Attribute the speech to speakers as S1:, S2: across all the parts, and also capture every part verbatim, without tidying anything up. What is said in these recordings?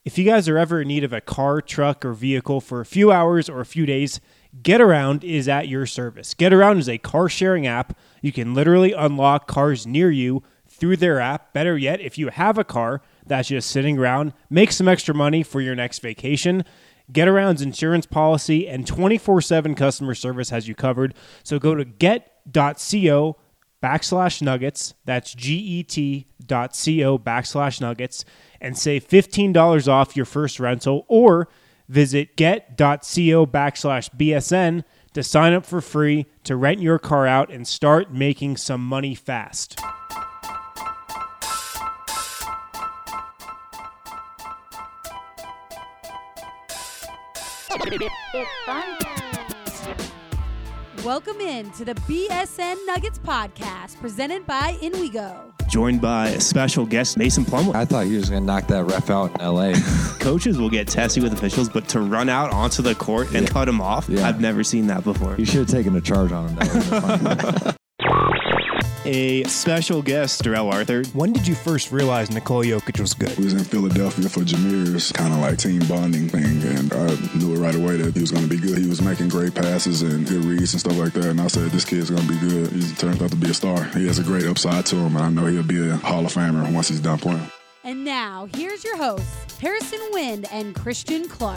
S1: If you guys are ever in need of a car, truck, or vehicle for a few hours or a few days, GetAround is at your service. GetAround is a car-sharing app. You can literally unlock cars near you through their app. Better yet, if you have a car that's just sitting around, make some extra money for your next vacation. GetAround's insurance policy and twenty-four seven customer service has you covered. So go to get.co backslash nuggets. That's G-E-T dot C-O backslash nuggets and save fifteen dollars off your first rental, or visit get.co backslash BSN to sign up for free to rent your car out and start making some money fast.
S2: It's fun time.
S3: Welcome in to the B S N Nuggets podcast presented by InWeGo.
S1: Joined by a special guest, Mason Plumlee.
S4: I thought he was going to knock that ref out in L A
S1: Coaches will get testy with officials, but to run out onto the court and
S4: yeah.
S1: cut him off,
S4: yeah.
S1: I've never seen that before.
S4: You should have taken a charge on him. That would have been fun.
S1: A special guest, Darrell Arthur. When did you first realize Nikola Jokic was good?
S5: We was in Philadelphia for Jameer's kind of like team bonding thing, and I knew it right away that he was going to be good. He was making great passes and good reads and stuff like that, and I said, this kid's going to be good. He turns out to be a star. He has a great upside to him, and I know he'll be a Hall of Famer once he's done playing.
S3: And now, here's your hosts, Harrison Wind and Christian Clark.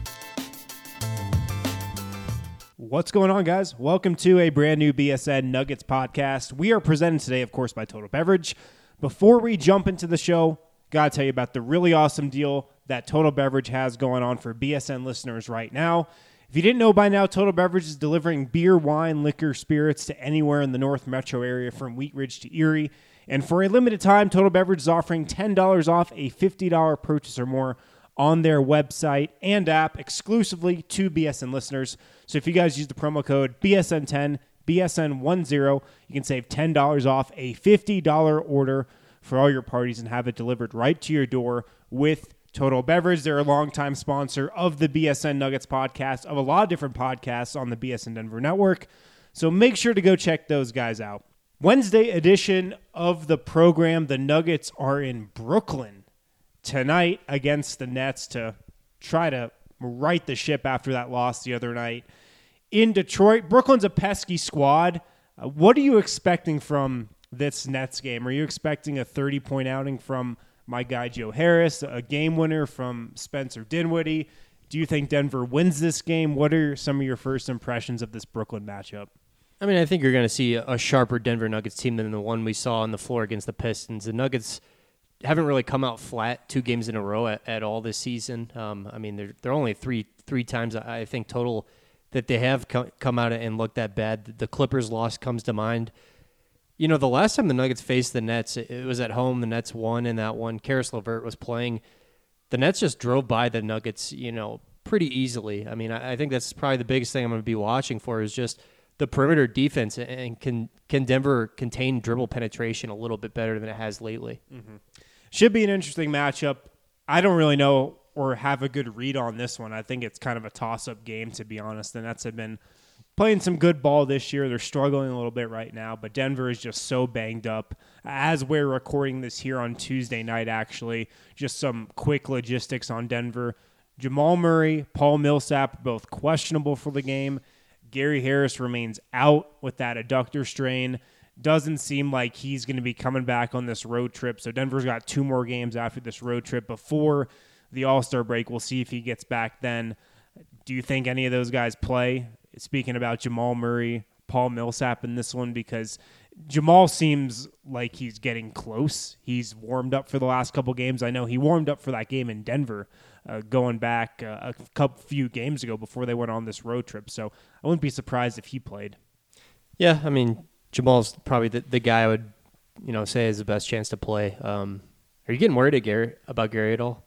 S1: What's going on, guys? Welcome to a brand new B S N Nuggets podcast. We are presented today, of course, by Total Beverage. Before we jump into the show, got to tell you about the really awesome deal that Total Beverage has going on for B S N listeners right now. If you didn't know by now, Total Beverage is delivering beer, wine, liquor, spirits to anywhere in the North Metro area from Wheat Ridge to Erie. And for a limited time, Total Beverage is offering ten dollars off a fifty dollars purchase or more on their website and app exclusively to B S N listeners. So if you guys use the promo code B S N ten, B S N ten, you can save ten dollars off a fifty dollars order for all your parties and have it delivered right to your door with Total Beverage. They're a longtime sponsor of the B S N Nuggets podcast, of a lot of different podcasts on the B S N Denver network. So make sure to go check those guys out. Wednesday edition of the program, the Nuggets are in Brooklyn tonight against the Nets to try to right the ship after that loss the other night. In Detroit, Brooklyn's a pesky squad. Uh, what are you expecting from this Nets game? Are you expecting a thirty-point outing from my guy Joe Harris, a game winner from Spencer Dinwiddie? Do you think Denver wins this game? What are some of your first impressions of this Brooklyn matchup?
S6: I mean, I think you're going to see a sharper Denver Nuggets team than the one we saw on the floor against the Pistons. The Nuggets haven't really come out flat two games in a row at, at all this season. Um, I mean, they're, they're only three three times, I think, total that they have co- come out and looked that bad. The Clippers loss comes to mind. You know, the last time the Nuggets faced the Nets, it, it was at home. The Nets won in that one. Karis LeVert was playing. The Nets just drove by the Nuggets, you know, pretty easily. I mean, I, I think that's probably the biggest thing I'm going to be watching for is just the perimeter defense, and can can Denver contain dribble penetration a little bit better than it has lately.
S1: Mm-hmm. Should be an interesting matchup. I don't really know or have a good read on this one. I think it's kind of a toss-up game, to be honest. The Nets have been playing some good ball this year. They're struggling a little bit right now, but Denver is just so banged up. As we're recording this here on Tuesday night, actually, just some quick logistics on Denver. Jamal Murray, Paul Millsap, both questionable for the game. Gary Harris remains out with that adductor strain. Doesn't seem like he's going to be coming back on this road trip. So Denver's got two more games after this road trip before the All-Star break. We'll see if he gets back then. Do you think any of those guys play? Speaking about Jamal Murray, Paul Millsap in this one, because Jamal seems like he's getting close. He's warmed up for the last couple games. I know he warmed up for that game in Denver uh, going back uh, a couple few games ago before they went on this road trip. So I wouldn't be surprised if he played.
S6: Yeah, I mean, Jamal's probably the, the guy I would, you know, say has the best chance to play. Um, are you getting worried at Gary, about Gary at all?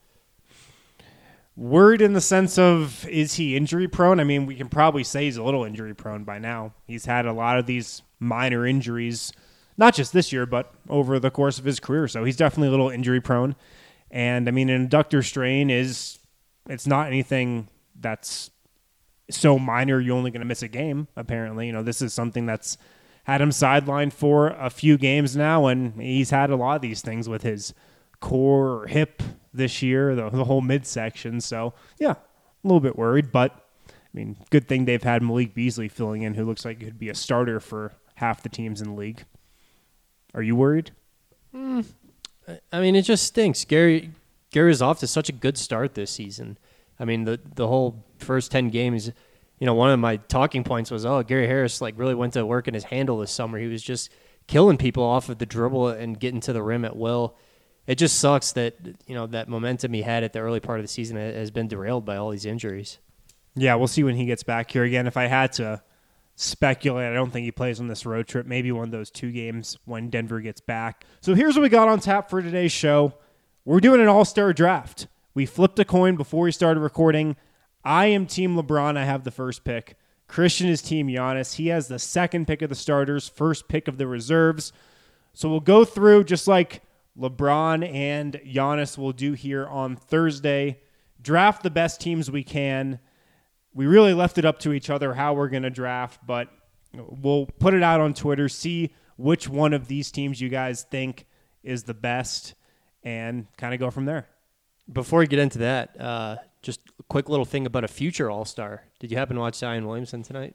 S1: Worried in the sense of, is he injury prone? I mean, we can probably say he's a little injury prone by now. He's had a lot of these minor injuries, not just this year, but over the course of his career. So he's definitely a little injury prone. And I mean, an adductor strain is, it's not anything that's so minor you're only going to miss a game, apparently. You know, this is something that's had him sidelined for a few games now, and he's had a lot of these things with his core or hip this year, the, the whole midsection. So, yeah, a little bit worried. But, I mean, good thing they've had Malik Beasley filling in, who looks like he could be a starter for half the teams in the league. Are you worried?
S6: Mm, I mean, it just stinks. Gary Gary is off to such a good start this season. I mean, the the whole first ten games, you know, one of my talking points was, oh, Gary Harris like really went to work in his handle this summer. He was just killing people off of the dribble and getting to the rim at will. It just sucks that, you know, that momentum he had at the early part of the season has been derailed by all these injuries.
S1: Yeah, we'll see when he gets back here again. If I had to speculate, I don't think he plays on this road trip. Maybe one of those two games when Denver gets back. So here's what we got on tap for today's show. We're doing an all-star draft. We flipped a coin before we started recording. I am Team LeBron. I have the first pick. Christian is Team Giannis. He has the second pick of the starters, first pick of the reserves. So we'll go through just like LeBron and Giannis will do here on Thursday. Draft the best teams we can. We really left it up to each other how we're going to draft, but we'll put it out on Twitter, see which one of these teams you guys think is the best, and kind of go from there.
S6: Before we get into that, uh, just a quick little thing about a future All-Star. Did you happen to watch Zion Williamson tonight?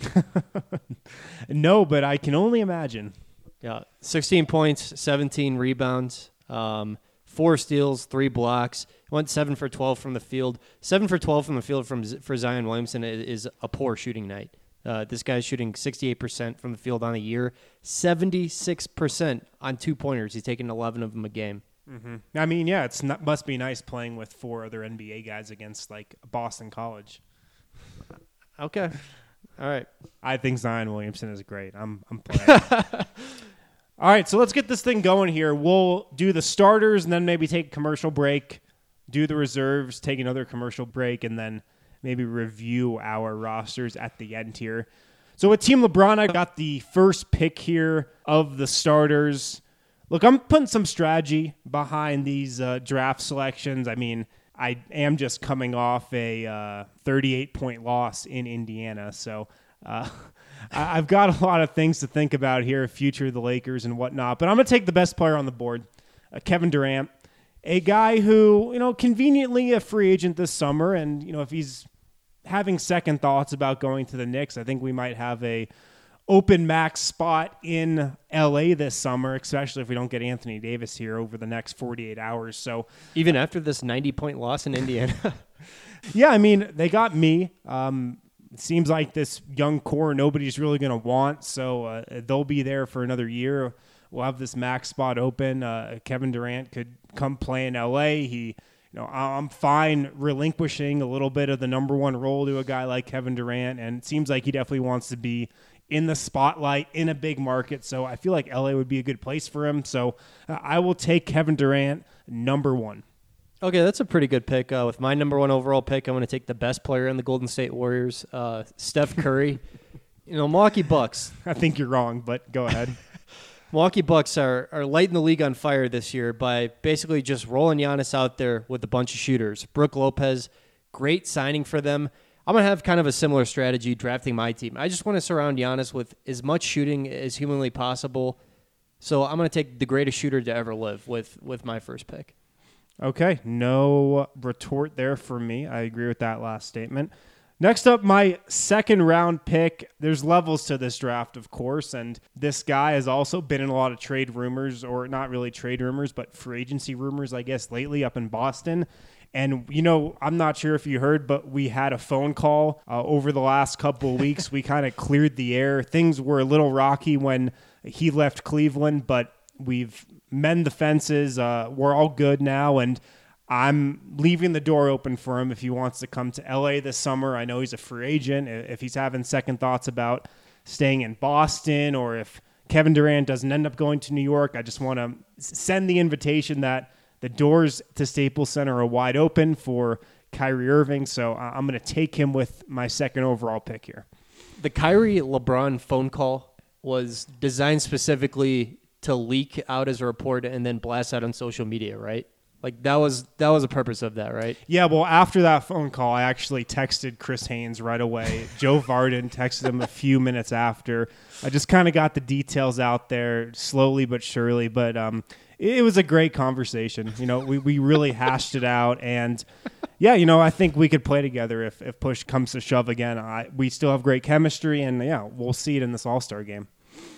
S1: No, but I can only imagine.
S6: Yeah, sixteen points, seventeen rebounds, um, four steals, three blocks. Went seven for twelve from the field. Seven for twelve from the field from for Zion Williamson is a poor shooting night. Uh, this guy's shooting sixty-eight percent from the field on the year, seventy-six percent on two-pointers. He's taking eleven of them a game.
S1: Mm-hmm. I mean, yeah, it's not, must be nice playing with four other N B A guys against, like, Boston College.
S6: Okay. All right.
S1: I think Zion Williamson is great. I'm I'm playing. All right, so let's get this thing going here. We'll do the starters and then maybe take a commercial break, do the reserves, take another commercial break, and then maybe review our rosters at the end here. So with Team LeBron, I got the first pick here of the starters. Look, I'm putting some strategy behind these uh, draft selections. I mean, I am just coming off a uh, thirty-eight point loss in Indiana, so uh, I- I've got a lot of things to think about here, future of the Lakers and whatnot. But I'm going to take the best player on the board, uh, Kevin Durant, a guy who, you know, conveniently a free agent this summer, and you know, if he's having second thoughts about going to the Knicks, I think we might have a open max spot in L A this summer, especially if we don't get Anthony Davis here over the next forty-eight hours. So
S6: even after this ninety-point loss in Indiana?
S1: Yeah, I mean, they got me. Um, it seems like this young core nobody's really going to want, so uh, they'll be there for another year. We'll have this max spot open. Uh, Kevin Durant could come play in L A. He, you know, I'm fine relinquishing a little bit of the number one role to a guy like Kevin Durant, and it seems like he definitely wants to be in the spotlight in a big market. So I feel like L A would be a good place for him. So uh, I will take Kevin Durant number one.
S6: Okay, that's a pretty good pick. Uh, with my number one overall pick, I'm going to take the best player in the Golden State Warriors, uh, Steph Curry. You know, Milwaukee Bucks.
S1: I think you're wrong, but go ahead.
S6: Milwaukee Bucks are, are lighting the league on fire this year by basically just rolling Giannis out there with a bunch of shooters. Brook Lopez, great signing for them. I'm going to have kind of a similar strategy drafting my team. I just want to surround Giannis with as much shooting as humanly possible. So I'm going to take the greatest shooter to ever live with, with my first pick.
S1: Okay, no retort there for me. I agree with that last statement. Next up, my second round pick. There's levels to this draft, of course, and this guy has also been in a lot of trade rumors, or not really trade rumors, but free agency rumors, I guess, lately up in Boston. And, you know, I'm not sure if you heard, but we had a phone call uh, over the last couple of weeks. We kind of cleared the air. Things were a little rocky when he left Cleveland, but we've mended the fences. Uh, we're all good now, and I'm leaving the door open for him if he wants to come to L A this summer. I know he's a free agent. If he's having second thoughts about staying in Boston, or if Kevin Durant doesn't end up going to New York, I just want to send the invitation that the doors to Staples Center are wide open for Kyrie Irving, so I'm going to take him with my second overall pick here.
S6: The Kyrie LeBron phone call was designed specifically to leak out as a report and then blast out on social media, right? Like that was that was the purpose of that, right?
S1: Yeah, well, after that phone call, I actually texted Chris Haynes right away. Joe Varden texted him a few minutes after. I just kind of got the details out there slowly but surely, but um, it, it was a great conversation. You know, we, we really hashed it out, and yeah, you know, I think we could play together if, if push comes to shove again. I, we still have great chemistry, and yeah, we'll see it in this All-Star game.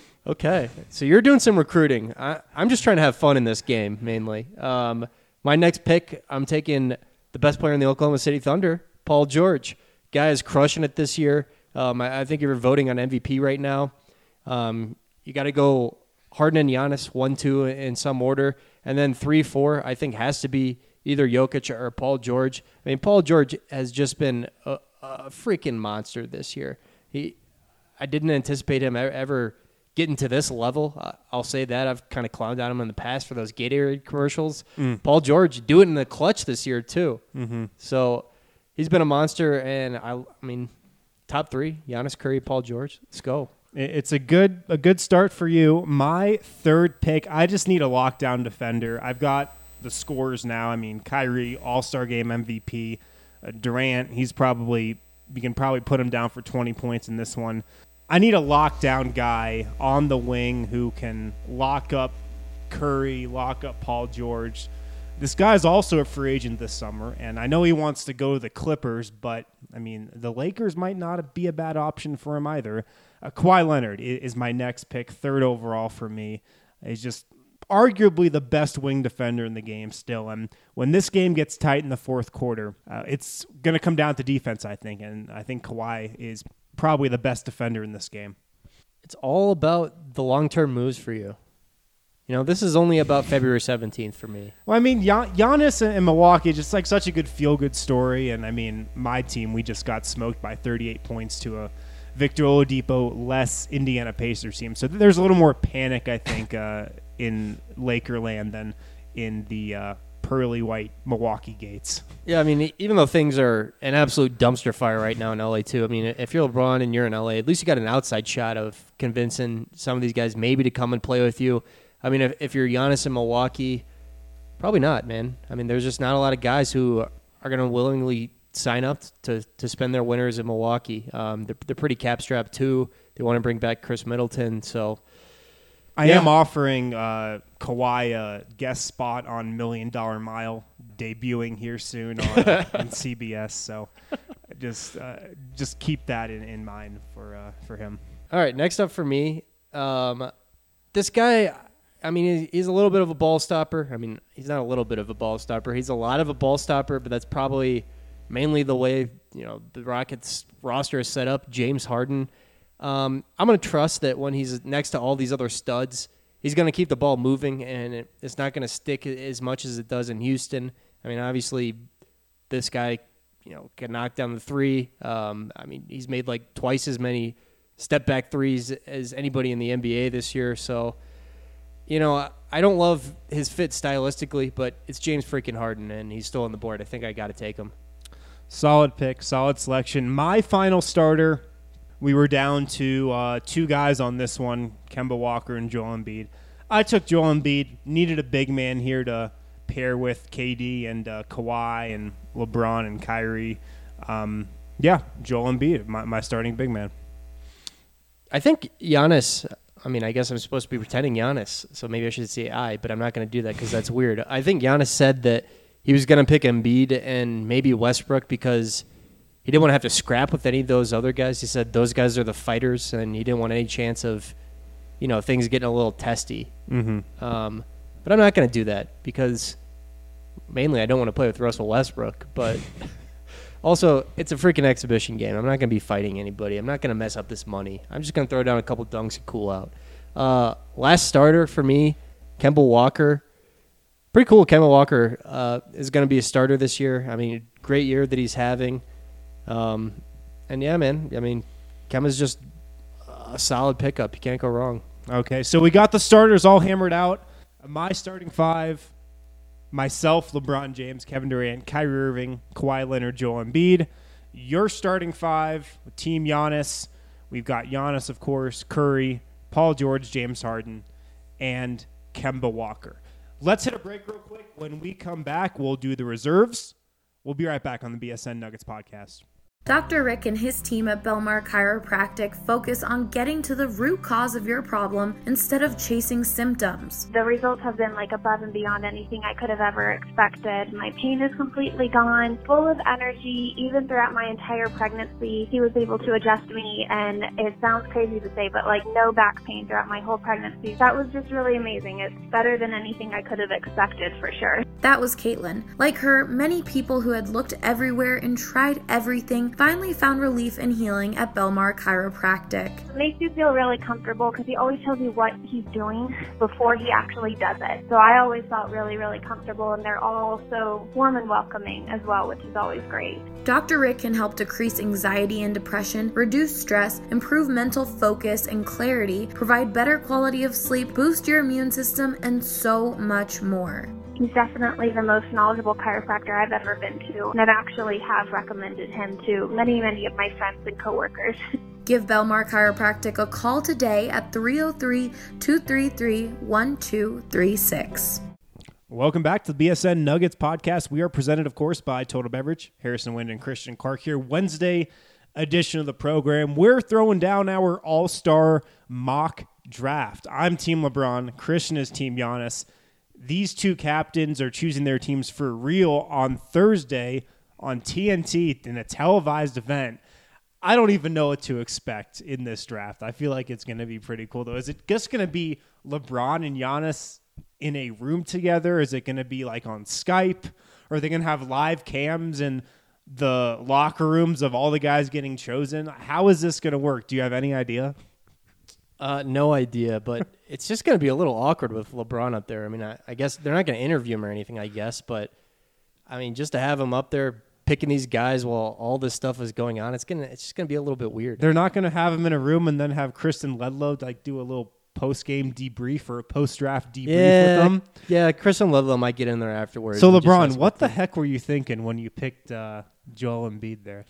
S6: Okay, so you're doing some recruiting. I, I'm just trying to have fun in this game, mainly. Um, my next pick, I'm taking the best player in the Oklahoma City Thunder, Paul George. Guy is crushing it this year. Um, I, I think you're voting on M V P right now. Um, you got to go Harden and Giannis, one, two in some order. And then three, four, I think has to be either Jokic or Paul George. I mean, Paul George has just been a, a freaking monster this year. He, I didn't anticipate him ever getting to this level. Uh, I'll say that. I've kind of clowned on him in the past for those Gatorade commercials. Mm. Paul George do it in the clutch this year too. Mm-hmm. So he's been a monster, and I, I mean, top three: Giannis, Curry, Paul George. Let's go.
S1: It's a good a good start for you. My third pick, I just need a lockdown defender. I've got the scores now. I mean, Kyrie, All-Star Game M V P. Uh, Durant, he's probably you can probably put him down for twenty points in this one. I need a lockdown guy on the wing who can lock up Curry, lock up Paul George. This guy's also a free agent this summer, and I know he wants to go to the Clippers, but, I mean, the Lakers might not be a bad option for him either. Uh, Kawhi Leonard is my next pick, third overall for me. He's just arguably the best wing defender in the game still, and when this game gets tight in the fourth quarter, uh, it's going to come down to defense, I think, and I think Kawhi is probably the best defender in this game.
S6: It's all about the long-term moves for you. You know, this is only about February seventeenth for me.
S1: Well, I mean, Gian- Giannis in Milwaukee, just like such a good feel-good story. And, I mean, my team, we just got smoked by thirty-eight points to a Victor Oladipo-less Indiana Pacers team. So there's a little more panic, I think, uh, in Lakerland than in the uh, pearly white Milwaukee gates.
S6: Yeah, I mean, even though things are an absolute dumpster fire right now in L A too, I mean, if you're LeBron and you're in L A, at least you got an outside shot of convincing some of these guys maybe to come and play with you. I mean, if, if you're Giannis in Milwaukee, probably not, man. I mean, there's just not a lot of guys who are going to willingly sign up to to spend their winters in Milwaukee. Um, they're, they're pretty cap-strapped too. They want to bring back Chris Middleton, so...
S1: I yeah. am offering uh, Kawhi a guest spot on Million Dollar Mile, debuting here soon on, on C B S. So just uh, just keep that in, in mind for uh, for him.
S6: All right, next up for me, um, this guy, I mean, he's a little bit of a ball stopper. I mean, he's not a little bit of a ball stopper. He's a lot of a ball stopper, but that's probably mainly the way, you know, the Rockets roster is set up. James Harden. Um, I'm going to trust that when he's next to all these other studs, he's going to keep the ball moving, and it, it's not going to stick as much as it does in Houston. I mean, obviously, this guy, you know, can knock down the three. Um, I mean, he's made like twice as many step-back threes as anybody in the N B A this year. So, you know, I don't love his fit stylistically, but it's James freaking Harden, and he's still on the board. I think I got to take him.
S1: Solid pick, solid selection. My final starter. We were down to uh, two guys on this one, Kemba Walker and Joel Embiid. I took Joel Embiid, needed a big man here to pair with K D and uh, Kawhi and LeBron and Kyrie. Um, yeah, Joel Embiid, my, my starting big man.
S6: I think Giannis, I mean, I guess I'm supposed to be pretending Giannis, so maybe I should say I, but I'm not going to do that because that's weird. I think Giannis said that he was going to pick Embiid and maybe Westbrook because he didn't want to have to scrap with any of those other guys. He said those guys are the fighters, and he didn't want any chance of, you know, things getting a little testy.
S1: Mm-hmm.
S6: Um, but I'm not going to do that because mainly I don't want to play with Russell Westbrook. But also, it's a freaking exhibition game. I'm not going to be fighting anybody. I'm not going to mess up this money. I'm just going to throw down a couple dunks and cool out. Uh, last starter for me, Kemba Walker. Pretty cool. Kemba Walker uh, is going to be a starter this year. I mean, great year that he's having. Um, and yeah, man, I mean, Kemba's just a solid pickup. You can't go wrong.
S1: Okay, so we got the starters all hammered out. My starting five, myself, LeBron James, Kevin Durant, Kyrie Irving, Kawhi Leonard, Joel Embiid. Your starting five, Team Giannis. We've got Giannis, of course, Curry, Paul George, James Harden, and Kemba Walker. Let's hit a break real quick. When we come back, we'll do the reserves. We'll be right back on the B S N Nuggets podcast.
S2: Doctor Rick and his team at Belmar Chiropractic focus on getting to the root cause of your problem instead of chasing symptoms.
S7: The results have been like above and beyond anything I could have ever expected. My pain is completely gone, full of energy. Even throughout my entire pregnancy, he was able to adjust me, and it sounds crazy to say, but like no back pain throughout my whole pregnancy. That was just really amazing. It's better than anything I could have expected for sure.
S2: That was Caitlin. Like her, many people who had looked everywhere and tried everything finally found relief and healing at Belmar Chiropractic.
S7: It makes you feel really comfortable because he always tells you what he's doing before he actually does it. So I always felt really, really comfortable, and they're all so warm and welcoming as well, which is always great.
S2: Doctor Rick can help decrease anxiety and depression, reduce stress, improve mental focus and clarity, provide better quality of sleep, boost your immune system, and so much more.
S7: He's definitely the most knowledgeable chiropractor I've ever been to, and I've actually have recommended him to many, many of my friends and coworkers.
S2: Give Belmar Chiropractic a call today at three oh three, two three three, one two three six.
S1: Welcome back to the B S N Nuggets podcast. We are presented, of course, by Total Beverage. Harrison Wind and Christian Clark here. Wednesday edition of the program. We're throwing down our all-star mock draft. I'm Team LeBron. Christian is Team Giannis. These two captains are choosing their teams for real on Thursday on T N T in a televised event. I don't even know what to expect in this draft. I feel like it's going to be pretty cool, though. Is it just going to be LeBron and Giannis in a room together? Is it going to be like on Skype? Or are they going to have live cams in the locker rooms of all the guys getting chosen? How is this going to work? Do you have any idea?
S6: Uh, no idea, but it's just going to be a little awkward with LeBron up there. I mean, I, I guess they're not going to interview him or anything, I guess, but I mean, just to have him up there picking these guys while all this stuff is going on, it's gonna it's just gonna be a little bit weird.
S1: They're not going to have him in a room and then have Kristen Ledlow like do a little post-game debrief or a post-draft debrief
S6: yeah,
S1: with them.
S6: Yeah, Kristen Ledlow might get in there afterwards.
S1: So LeBron, what the heck were you thinking when you picked uh, Joel Embiid there?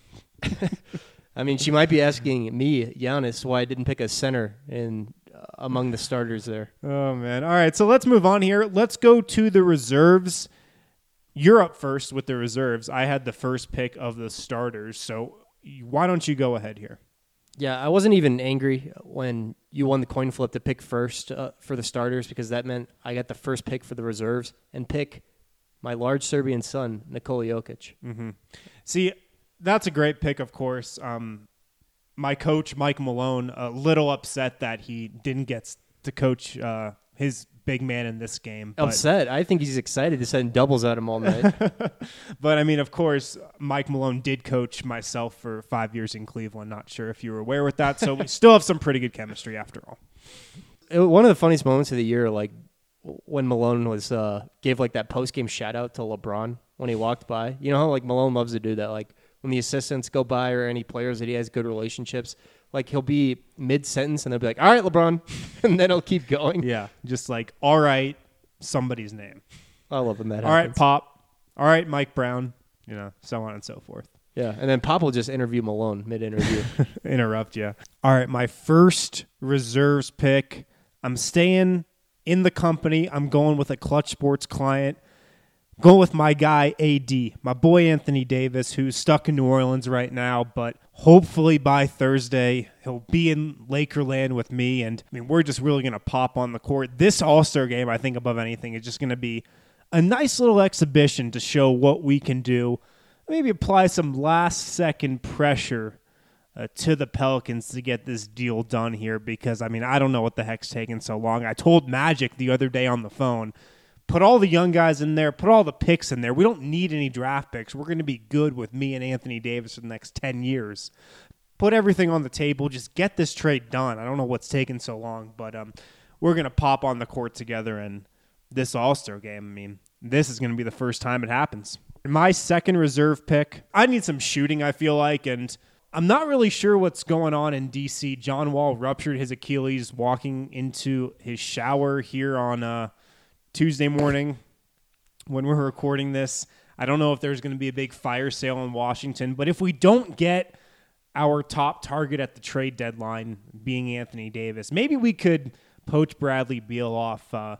S6: I mean, she might be asking me, Giannis, why I didn't pick a center in uh, among the starters there.
S1: Oh, man. All right, so let's move on here. Let's go to the reserves. You're up first with the reserves. I had the first pick of the starters, so why don't you go ahead here?
S6: Yeah, I wasn't even angry when you won the coin flip to pick first uh, for the starters because that meant I got the first pick for the reserves and pick my large Serbian son, Nikola Jokic.
S1: Mm-hmm. See, that's a great pick, of course. Um, my coach, Mike Malone, a little upset that he didn't get to coach uh, his big man in this game. But,
S6: upset? I think he's excited to send doubles at him all night.
S1: But, I mean, of course, Mike Malone did coach myself for five years in Cleveland. Not sure if you were aware with that. So we still have some pretty good chemistry after all.
S6: It, one of the funniest moments of the year, like when Malone was uh, gave like that post-game shout-out to LeBron when he walked by. You know how like Malone loves to do that, like when the assistants go by or any players that he has good relationships, like he'll be mid-sentence and they'll be like, all right, LeBron, and then he'll keep going.
S1: Yeah, just like, all right, somebody's name.
S6: I love when that
S1: all
S6: happens.
S1: Right, Pop. All right, Mike Brown, you know, so on and so forth.
S6: Yeah, and then Pop will just interview Malone mid-interview.
S1: Interrupt you. All right, my first reserves pick, I'm staying in the company. I'm going with a Clutch Sports client. Going with my guy, A D, my boy Anthony Davis, who's stuck in New Orleans right now, but hopefully by Thursday, he'll be in Lakerland with me, and I mean, we're just really going to pop on the court. This All-Star game, I think, above anything, is just going to be a nice little exhibition to show what we can do. Maybe apply some last-second pressure uh, to the Pelicans to get this deal done here, because, I mean, I don't know what the heck's taking so long. I told Magic the other day on the phone, put all the young guys in there. Put all the picks in there. We don't need any draft picks. We're going to be good with me and Anthony Davis for the next ten years. Put everything on the table. Just get this trade done. I don't know what's taking so long, but um, we're going to pop on the court together in this All-Star game. I mean, this is going to be the first time it happens. My second reserve pick, I need some shooting, I feel like, and I'm not really sure what's going on in D C. John Wall ruptured his Achilles walking into his shower here on uh, Tuesday morning when we're recording this. I don't know if there's going to be a big fire sale in Washington, but if we don't get our top target at the trade deadline being Anthony Davis, maybe we could poach Bradley Beal off uh,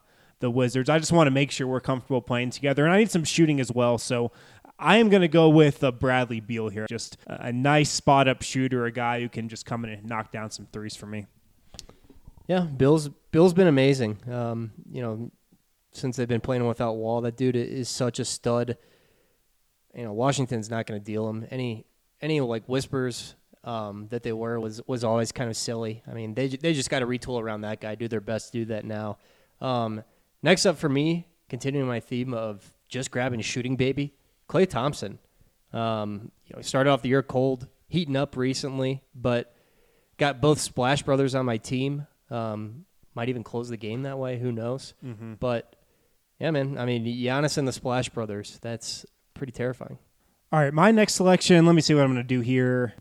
S1: the Wizards. I just want to make sure we're comfortable playing together, and I need some shooting as well. So I am going to go with uh, Bradley Beal here. Just a, a nice spot-up shooter, a guy who can just come in and knock down some threes for me.
S6: Yeah, Bill's Bill's been amazing. Um, you know, since they've been playing without Wall, that dude is such a stud. You know, Washington's not going to deal him. Any any like whispers um, that they were was was always kind of silly. I mean, they they just got to retool around that guy, do their best to do that now. Um, next up for me, continuing my theme of just grabbing a shooting baby, Klay Thompson. Um, you know, he started off the year cold, heating up recently, but got both Splash Brothers on my team. Um, might even close the game that way. Who knows? Mm-hmm. But, yeah, man, I mean, Giannis and the Splash Brothers, that's pretty terrifying.
S1: All right, my next selection, let me see what I'm going to do here.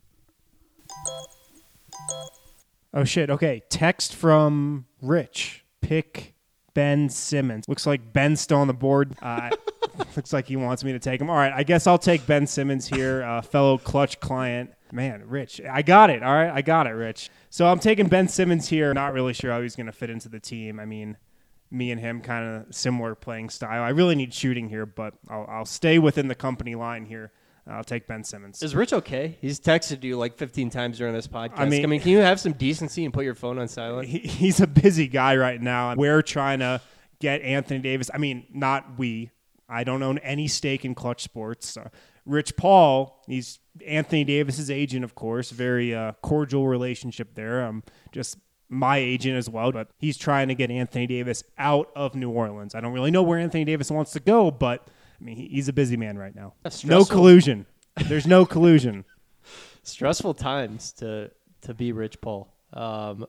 S1: Oh, shit. Okay, text from Rich. Pick Ben Simmons. Looks like Ben's still on the board. Uh, looks like he wants me to take him. All right, I guess I'll take Ben Simmons here, uh, fellow Clutch client. Man, Rich, I got it. All right, I got it, Rich. So I'm taking Ben Simmons here. Not really sure how he's going to fit into the team. I mean, me and him kind of similar playing style. I really need shooting here, but I'll, I'll stay within the company line here. I'll take Ben Simmons.
S6: Is Rich okay? He's texted you like fifteen times during this podcast.
S1: I mean,
S6: I mean can you have some decency and put your phone on silent?
S1: He, he's a busy guy right now. We're trying to get Anthony Davis. I mean, not we. I don't own any stake in Clutch Sports. Uh, Rich Paul, he's Anthony Davis's agent, of course. Very uh, cordial relationship there. Um, just my agent as well, but he's trying to get Anthony Davis out of New Orleans. I don't really know where Anthony Davis wants to go, but I mean, he, he's a busy man right now. No collusion. There's no collusion.
S6: Stressful times to to be Rich Paul. Um,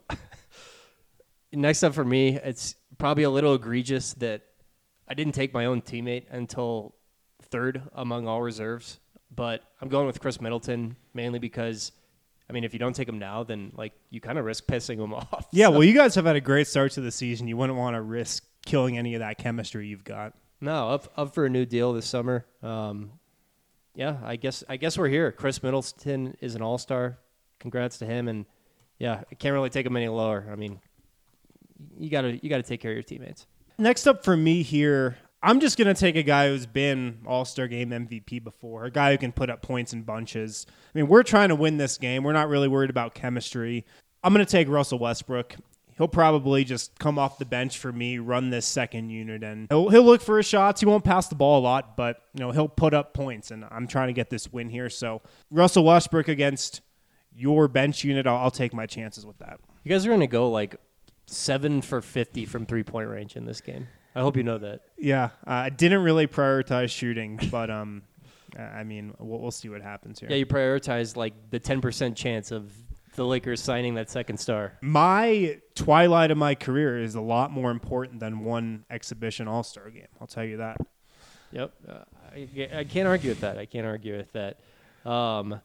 S6: next up for me, it's probably a little egregious that I didn't take my own teammate until third among all reserves, but I'm going with Chris Middleton mainly because, I mean, if you don't take him now, then like you kind of risk pissing him off.
S1: Yeah,
S6: so.
S1: Well, you guys have had a great start to the season. You wouldn't want to risk killing any of that chemistry you've got.
S6: No, up up for a new deal this summer. Um, yeah, I guess I guess we're here. Chris Middleton is an all-star. Congrats to him, and yeah, I can't really take him any lower. I mean, you gotta you gotta take care of your teammates.
S1: Next up for me here, I'm just going to take a guy who's been All-Star Game M V P before, a guy who can put up points in bunches. I mean, we're trying to win this game. We're not really worried about chemistry. I'm going to take Russell Westbrook. He'll probably just come off the bench for me, run this second unit, and he'll, he'll look for his shots. He won't pass the ball a lot, but you know he'll put up points, and I'm trying to get this win here. So Russell Westbrook against your bench unit, I'll, I'll take my chances with that.
S6: You guys are going to go like seven for fifty from three-point range in this game. I hope you know that.
S1: Yeah, uh, I didn't really prioritize shooting, but um, I mean, we'll, we'll see what happens here.
S6: Yeah, you prioritized like the ten percent chance of the Lakers signing that second star.
S1: My twilight of my career is a lot more important than one exhibition All-Star game. I'll tell you that.
S6: Yep. Uh, I, I can't argue with that. I can't argue with that. Um,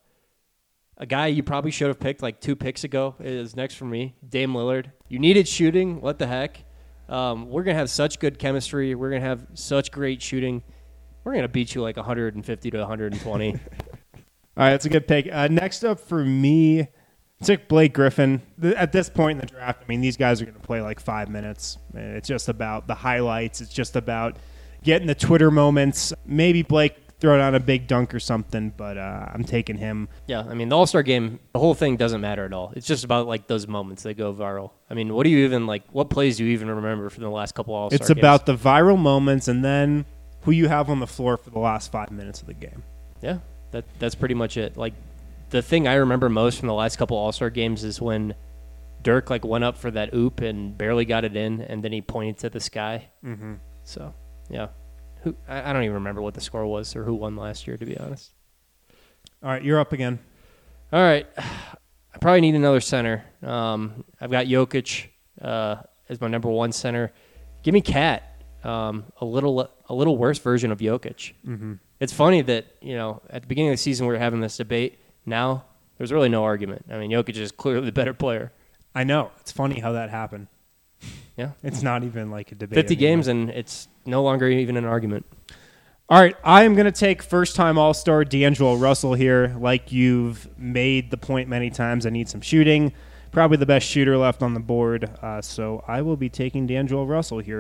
S6: a guy you probably should have picked like two picks ago is next for me, Dame Lillard. You needed shooting. What the heck? Um, we're going to have such good chemistry. We're going to have such great shooting. We're going to beat you like one hundred fifty to one hundred twenty.
S1: All right, that's a good pick. Uh, next up for me, I took Blake Griffin. At this point in the draft, I mean, these guys are going to play like five minutes. It's just about the highlights. It's just about getting the Twitter moments. Maybe Blake throw down a big dunk or something, but uh, I'm taking him.
S6: Yeah, I mean, the All-Star game, the whole thing doesn't matter at all. It's just about, like, those moments that go viral. I mean, what do you even, like, what plays do you even remember from the last couple All-Star
S1: It's
S6: games?
S1: about the viral moments and then who you have on the floor for the last five minutes of the game.
S6: Yeah, that that's pretty much it. Like, the thing I remember most from the last couple All-Star games is when Dirk, like, went up for that oop and barely got it in, and then he pointed to the sky.
S1: Mm-hmm.
S6: So, yeah. Who I, I don't even remember what the score was or who won last year, to be honest.
S1: All right, you're up again.
S6: All right. I probably need another center. Um, I've got Jokic uh, as my number one center. Give me Cat, um, a little a little worse version of Jokic.
S1: Mm-hmm.
S6: It's funny that, you know, at the beginning of the season we were having this debate. Now there's really no argument. I mean, Jokic is clearly the better player.
S1: I know. It's funny how that happened.
S6: Yeah.
S1: It's not even like a debate
S6: fifty
S1: anymore.
S6: games, and it's no longer even an argument.
S1: All right, I am going to take first-time All-Star D'Angelo Russell here. Like you've made the point many times, I need some shooting. Probably the best shooter left on the board, uh, so I will be taking D'Angelo Russell here.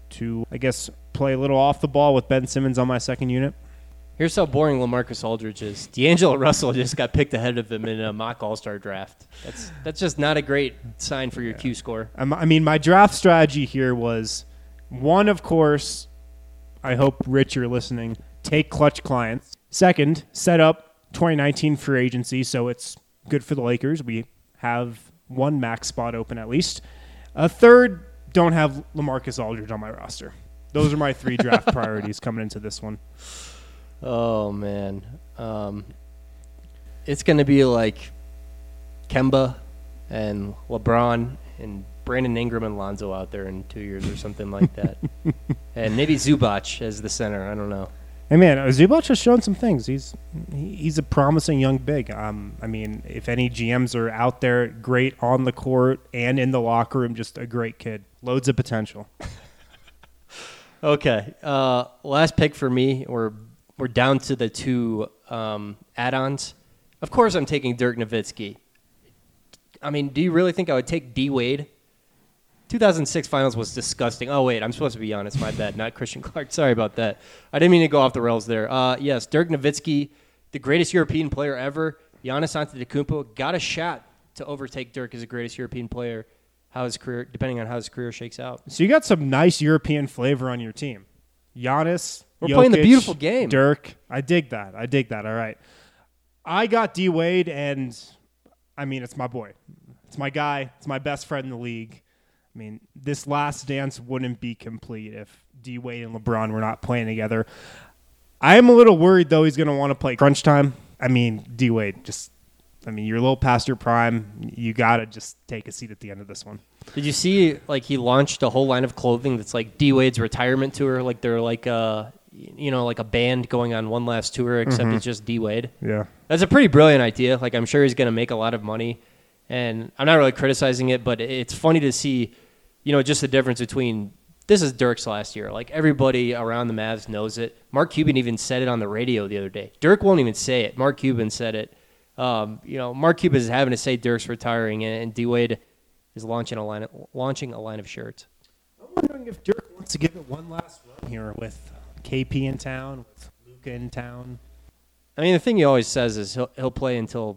S1: to, I guess, play a little off the ball with Ben Simmons on my second unit.
S6: Here's how boring LaMarcus Aldridge is. D'Angelo Russell just got picked ahead of him in a mock All-Star draft. That's that's just not a great sign for your Q score.
S1: Um, I mean, my draft strategy here was, one, of course, I hope, Rich, you're listening, take clutch clients. Second, set up twenty nineteen free agency, so it's good for the Lakers. We have one max spot open at least. A third, don't have LaMarcus Aldridge on my roster. Those are my three draft priorities coming into this one.
S6: Oh, man. Um, it's going to be like Kemba and LeBron and Brandon Ingram and Lonzo out there in two years or something like that. And maybe Zubac as the center. I don't know.
S1: Hey, man, Zubac has shown some things. He's he's a promising young big. Um, I mean, if any G Ms are out there, great on the court and in the locker room, just a great kid. Loads of potential.
S6: Okay. Uh, last pick for me, or we're down to the two um, add-ons. Of course I'm taking Dirk Nowitzki. I mean, do you really think I would take D-Wade? two thousand six finals was disgusting. Oh, wait, I'm supposed to be honest. My bad, not Christian Clark. Sorry about that. I didn't mean to go off the rails there. Uh, yes, Dirk Nowitzki, the greatest European player ever. Giannis Antetokounmpo got a shot to overtake Dirk as the greatest European player, how his career, depending on how his career shakes out.
S1: So you got some nice European flavor on your team. Giannis,
S6: We're
S1: Jokic,
S6: playing the beautiful game.
S1: Dirk. I dig that. I dig that. All right. I got D-Wade, and, I mean, it's my boy. It's my guy. It's my best friend in the league. I mean, this last dance wouldn't be complete if D-Wade and LeBron were not playing together. I am a little worried, though, he's going to want to play crunch time. I mean, D-Wade, just, I mean, you're a little past your prime. You got to just take a seat at the end of this one.
S6: Did you see, like, he launched a whole line of clothing that's like D-Wade's retirement tour? Like, they're like a, you know, like a band going on one last tour, except
S1: Mm-hmm.
S6: it's just D-Wade.
S1: Yeah.
S6: That's a pretty brilliant idea. Like, I'm sure he's going to make a lot of money. And I'm not really criticizing it, but it's funny to see, you know, just the difference between, this is Dirk's last year. Like, everybody around the Mavs knows it. Mark Cuban even said it on the radio the other day. Dirk won't even say it. Mark Cuban said it. Um, you know, Mark Cuban is having to say Dirk's retiring, and, and D-Wade is launching a line of, launching a line of shirts.
S1: I'm wondering if Dirk wants to give it one last run here with K P in town, with Luka in town.
S6: I mean, the thing he always says is he'll he'll play until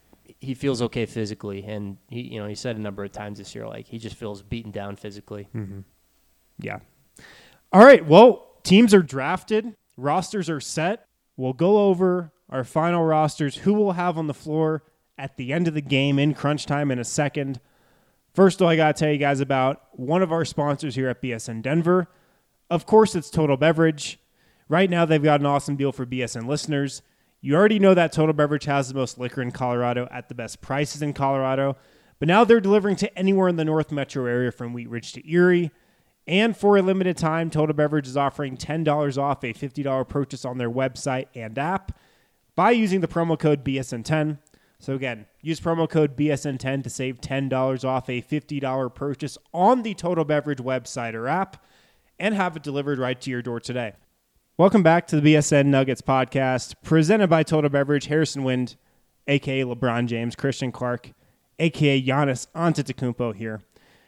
S6: he feels okay physically, and he you know he said a number of times this year, like, he just feels beaten down physically.
S1: Mm-hmm. Yeah. All right. Well, teams are drafted, rosters are set. We'll go over our final rosters, who we'll have on the floor at the end of the game in crunch time in a second. First, though, I got to tell you guys about one of our sponsors here at B S N Denver. Of course, it's Total Beverage. Right now, they've got an awesome deal for B S N listeners. You already know that Total Beverage has the most liquor in Colorado at the best prices in Colorado. But now they're delivering to anywhere in the North Metro area from Wheat Ridge to Erie. And for a limited time, Total Beverage is offering ten dollars off a fifty dollars purchase on their website and app by using the promo code B S N ten. So again, use promo code B S N ten to save ten dollars off a fifty dollars purchase on the Total Beverage website or app and have it delivered right to your door today. Welcome back to the B S N Nuggets podcast, presented by Total Beverage. Harrison Wind, a k a. LeBron James, Christian Clark, a k a. Giannis Antetokounmpo here.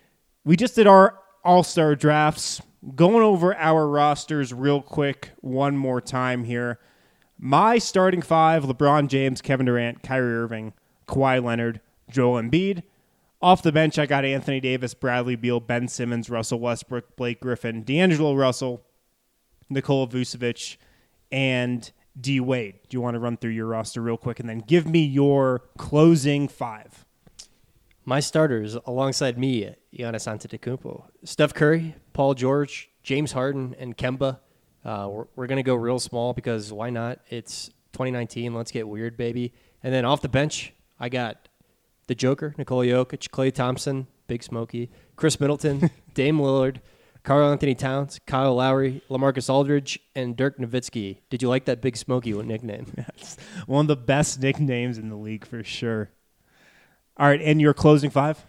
S1: We just did our All-Star drafts, going over our rosters real quick one more time here. My starting five, LeBron James, Kevin Durant, Kyrie Irving, Kawhi Leonard, Joel Embiid. Off the bench, I got Anthony Davis, Bradley Beal, Ben Simmons, Russell Westbrook, Blake Griffin, D'Angelo Russell, Nikola Vucevic, and D-Wade. Do you want to run through your roster real quick and then give me your closing five?
S6: My starters, alongside me, Giannis Antetokounmpo, Steph Curry, Paul George, James Harden, and Kemba. Uh, we're we're going to go real small because why not? It's twenty nineteen. Let's get weird, baby. And then off the bench, I got the Joker, Nikola Jokic, Klay Thompson, Big Smokey, Chris Middleton, Dame Lillard, Karl Anthony Towns, Kyle Lowry, LaMarcus Aldridge, and Dirk Nowitzki. Did you like that Big Smokey nickname?
S1: Yes. One of the best nicknames in the league for sure. All right, and your closing five?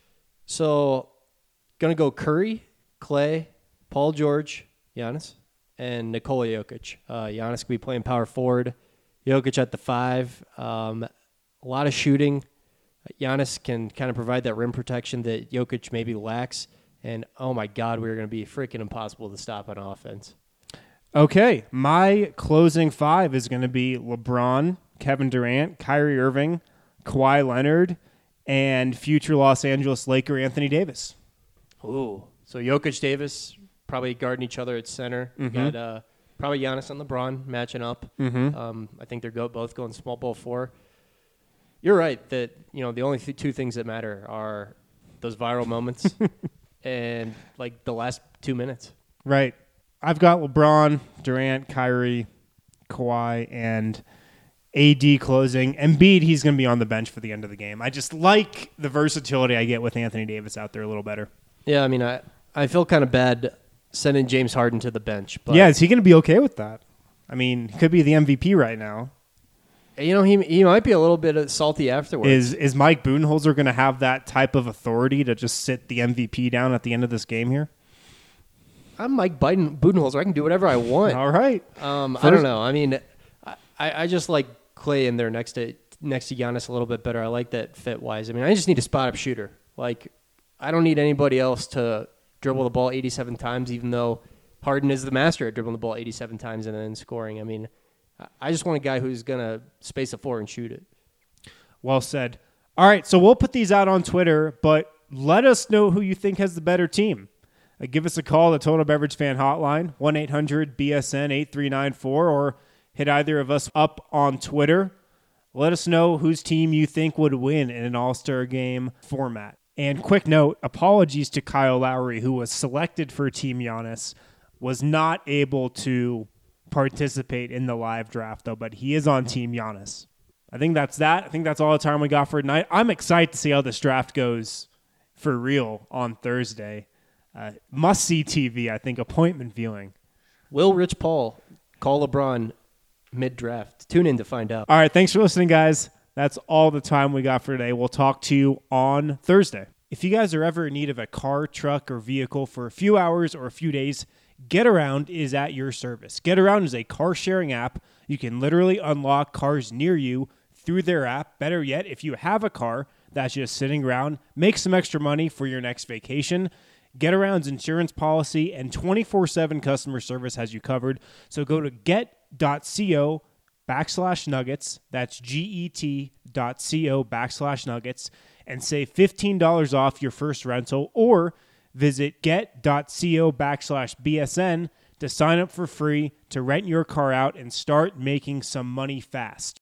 S6: So, going to go Curry, Klay, Paul George, Giannis, and Nikola Jokic. Uh, Giannis could be playing power forward. Jokic at the five. Um, a lot of shooting. Giannis can kind of provide that rim protection that Jokic maybe lacks. And, oh, my God, we were going to be freaking impossible to stop on offense.
S1: Okay, my closing five is going to be LeBron, Kevin Durant, Kyrie Irving, Kawhi Leonard, and future Los Angeles Laker Anthony Davis.
S6: Ooh. So Jokic, Davis probably guarding each other at center. You
S1: Mm-hmm.
S6: got uh, probably Giannis and LeBron matching up.
S1: Mm-hmm.
S6: Um, I think they're go- both going small ball four. You're right that you know the only th- two things that matter are those viral moments and like the last two minutes.
S1: Right. I've got LeBron, Durant, Kyrie, Kawhi, and A D closing. Embiid, he's going to be on the bench for the end of the game. I just like the versatility I get with Anthony Davis out there a little better.
S6: Yeah, I mean, I, I feel kind of bad sending James Harden to the bench. But,
S1: Yeah, is he going to be okay with that? I mean, he could be the M V P right now.
S6: you know, he he might be a little bit salty afterwards.
S1: Is is Mike Budenholzer going to have that type of authority to just sit the M V P down at the end of this game here?
S6: I'm Mike Biden, Budenholzer. I can do whatever I want.
S1: All right.
S6: Um, I
S1: First-
S6: don't know. I mean, I, I just like Clay in there next to next to Giannis a little bit better. I like that fit wise. I mean, I just need a spot up shooter. Like, I don't need anybody else to dribble the ball eighty-seven times, even though Harden is the master at dribbling the ball eighty-seven times and then scoring. I mean, I- I just want a guy who's gonna space a four and shoot it.
S1: Well said. All right, so we'll put these out on Twitter, but let us know who you think has the better team. Uh, give us a call, the Total Beverage Fan Hotline, one eight hundred B S N eight three nine four, or hit either of us up on Twitter. Let us know whose team you think would win in an All-Star Game format. And quick note, apologies to Kyle Lowry, who was selected for Team Giannis, was not able to participate in the live draft, though, but he is on Team Giannis. I think that's that. I think that's all the time we got for tonight. I'm excited to see how this draft goes for real on Thursday. Uh, must-see T V, I think, appointment viewing.
S6: Will Rich Paul call LeBron mid-draft? Tune in to find out.
S1: All right, thanks for listening, guys. That's all the time we got for today. We'll talk to you on Thursday. If you guys are ever in need of a car, truck, or vehicle for a few hours or a few days, GetAround is at your service. GetAround is a car-sharing app. You can literally unlock cars near you through their app. Better yet, if you have a car that's just sitting around, make some extra money for your next vacation. GetAround's insurance policy and twenty-four seven customer service has you covered. So go to get.co backslash nuggets. That's G-E-T.co backslash nuggets and save fifteen dollars off your first rental, or visit get.co backslash BSN to sign up for free to rent your car out and start making some money fast.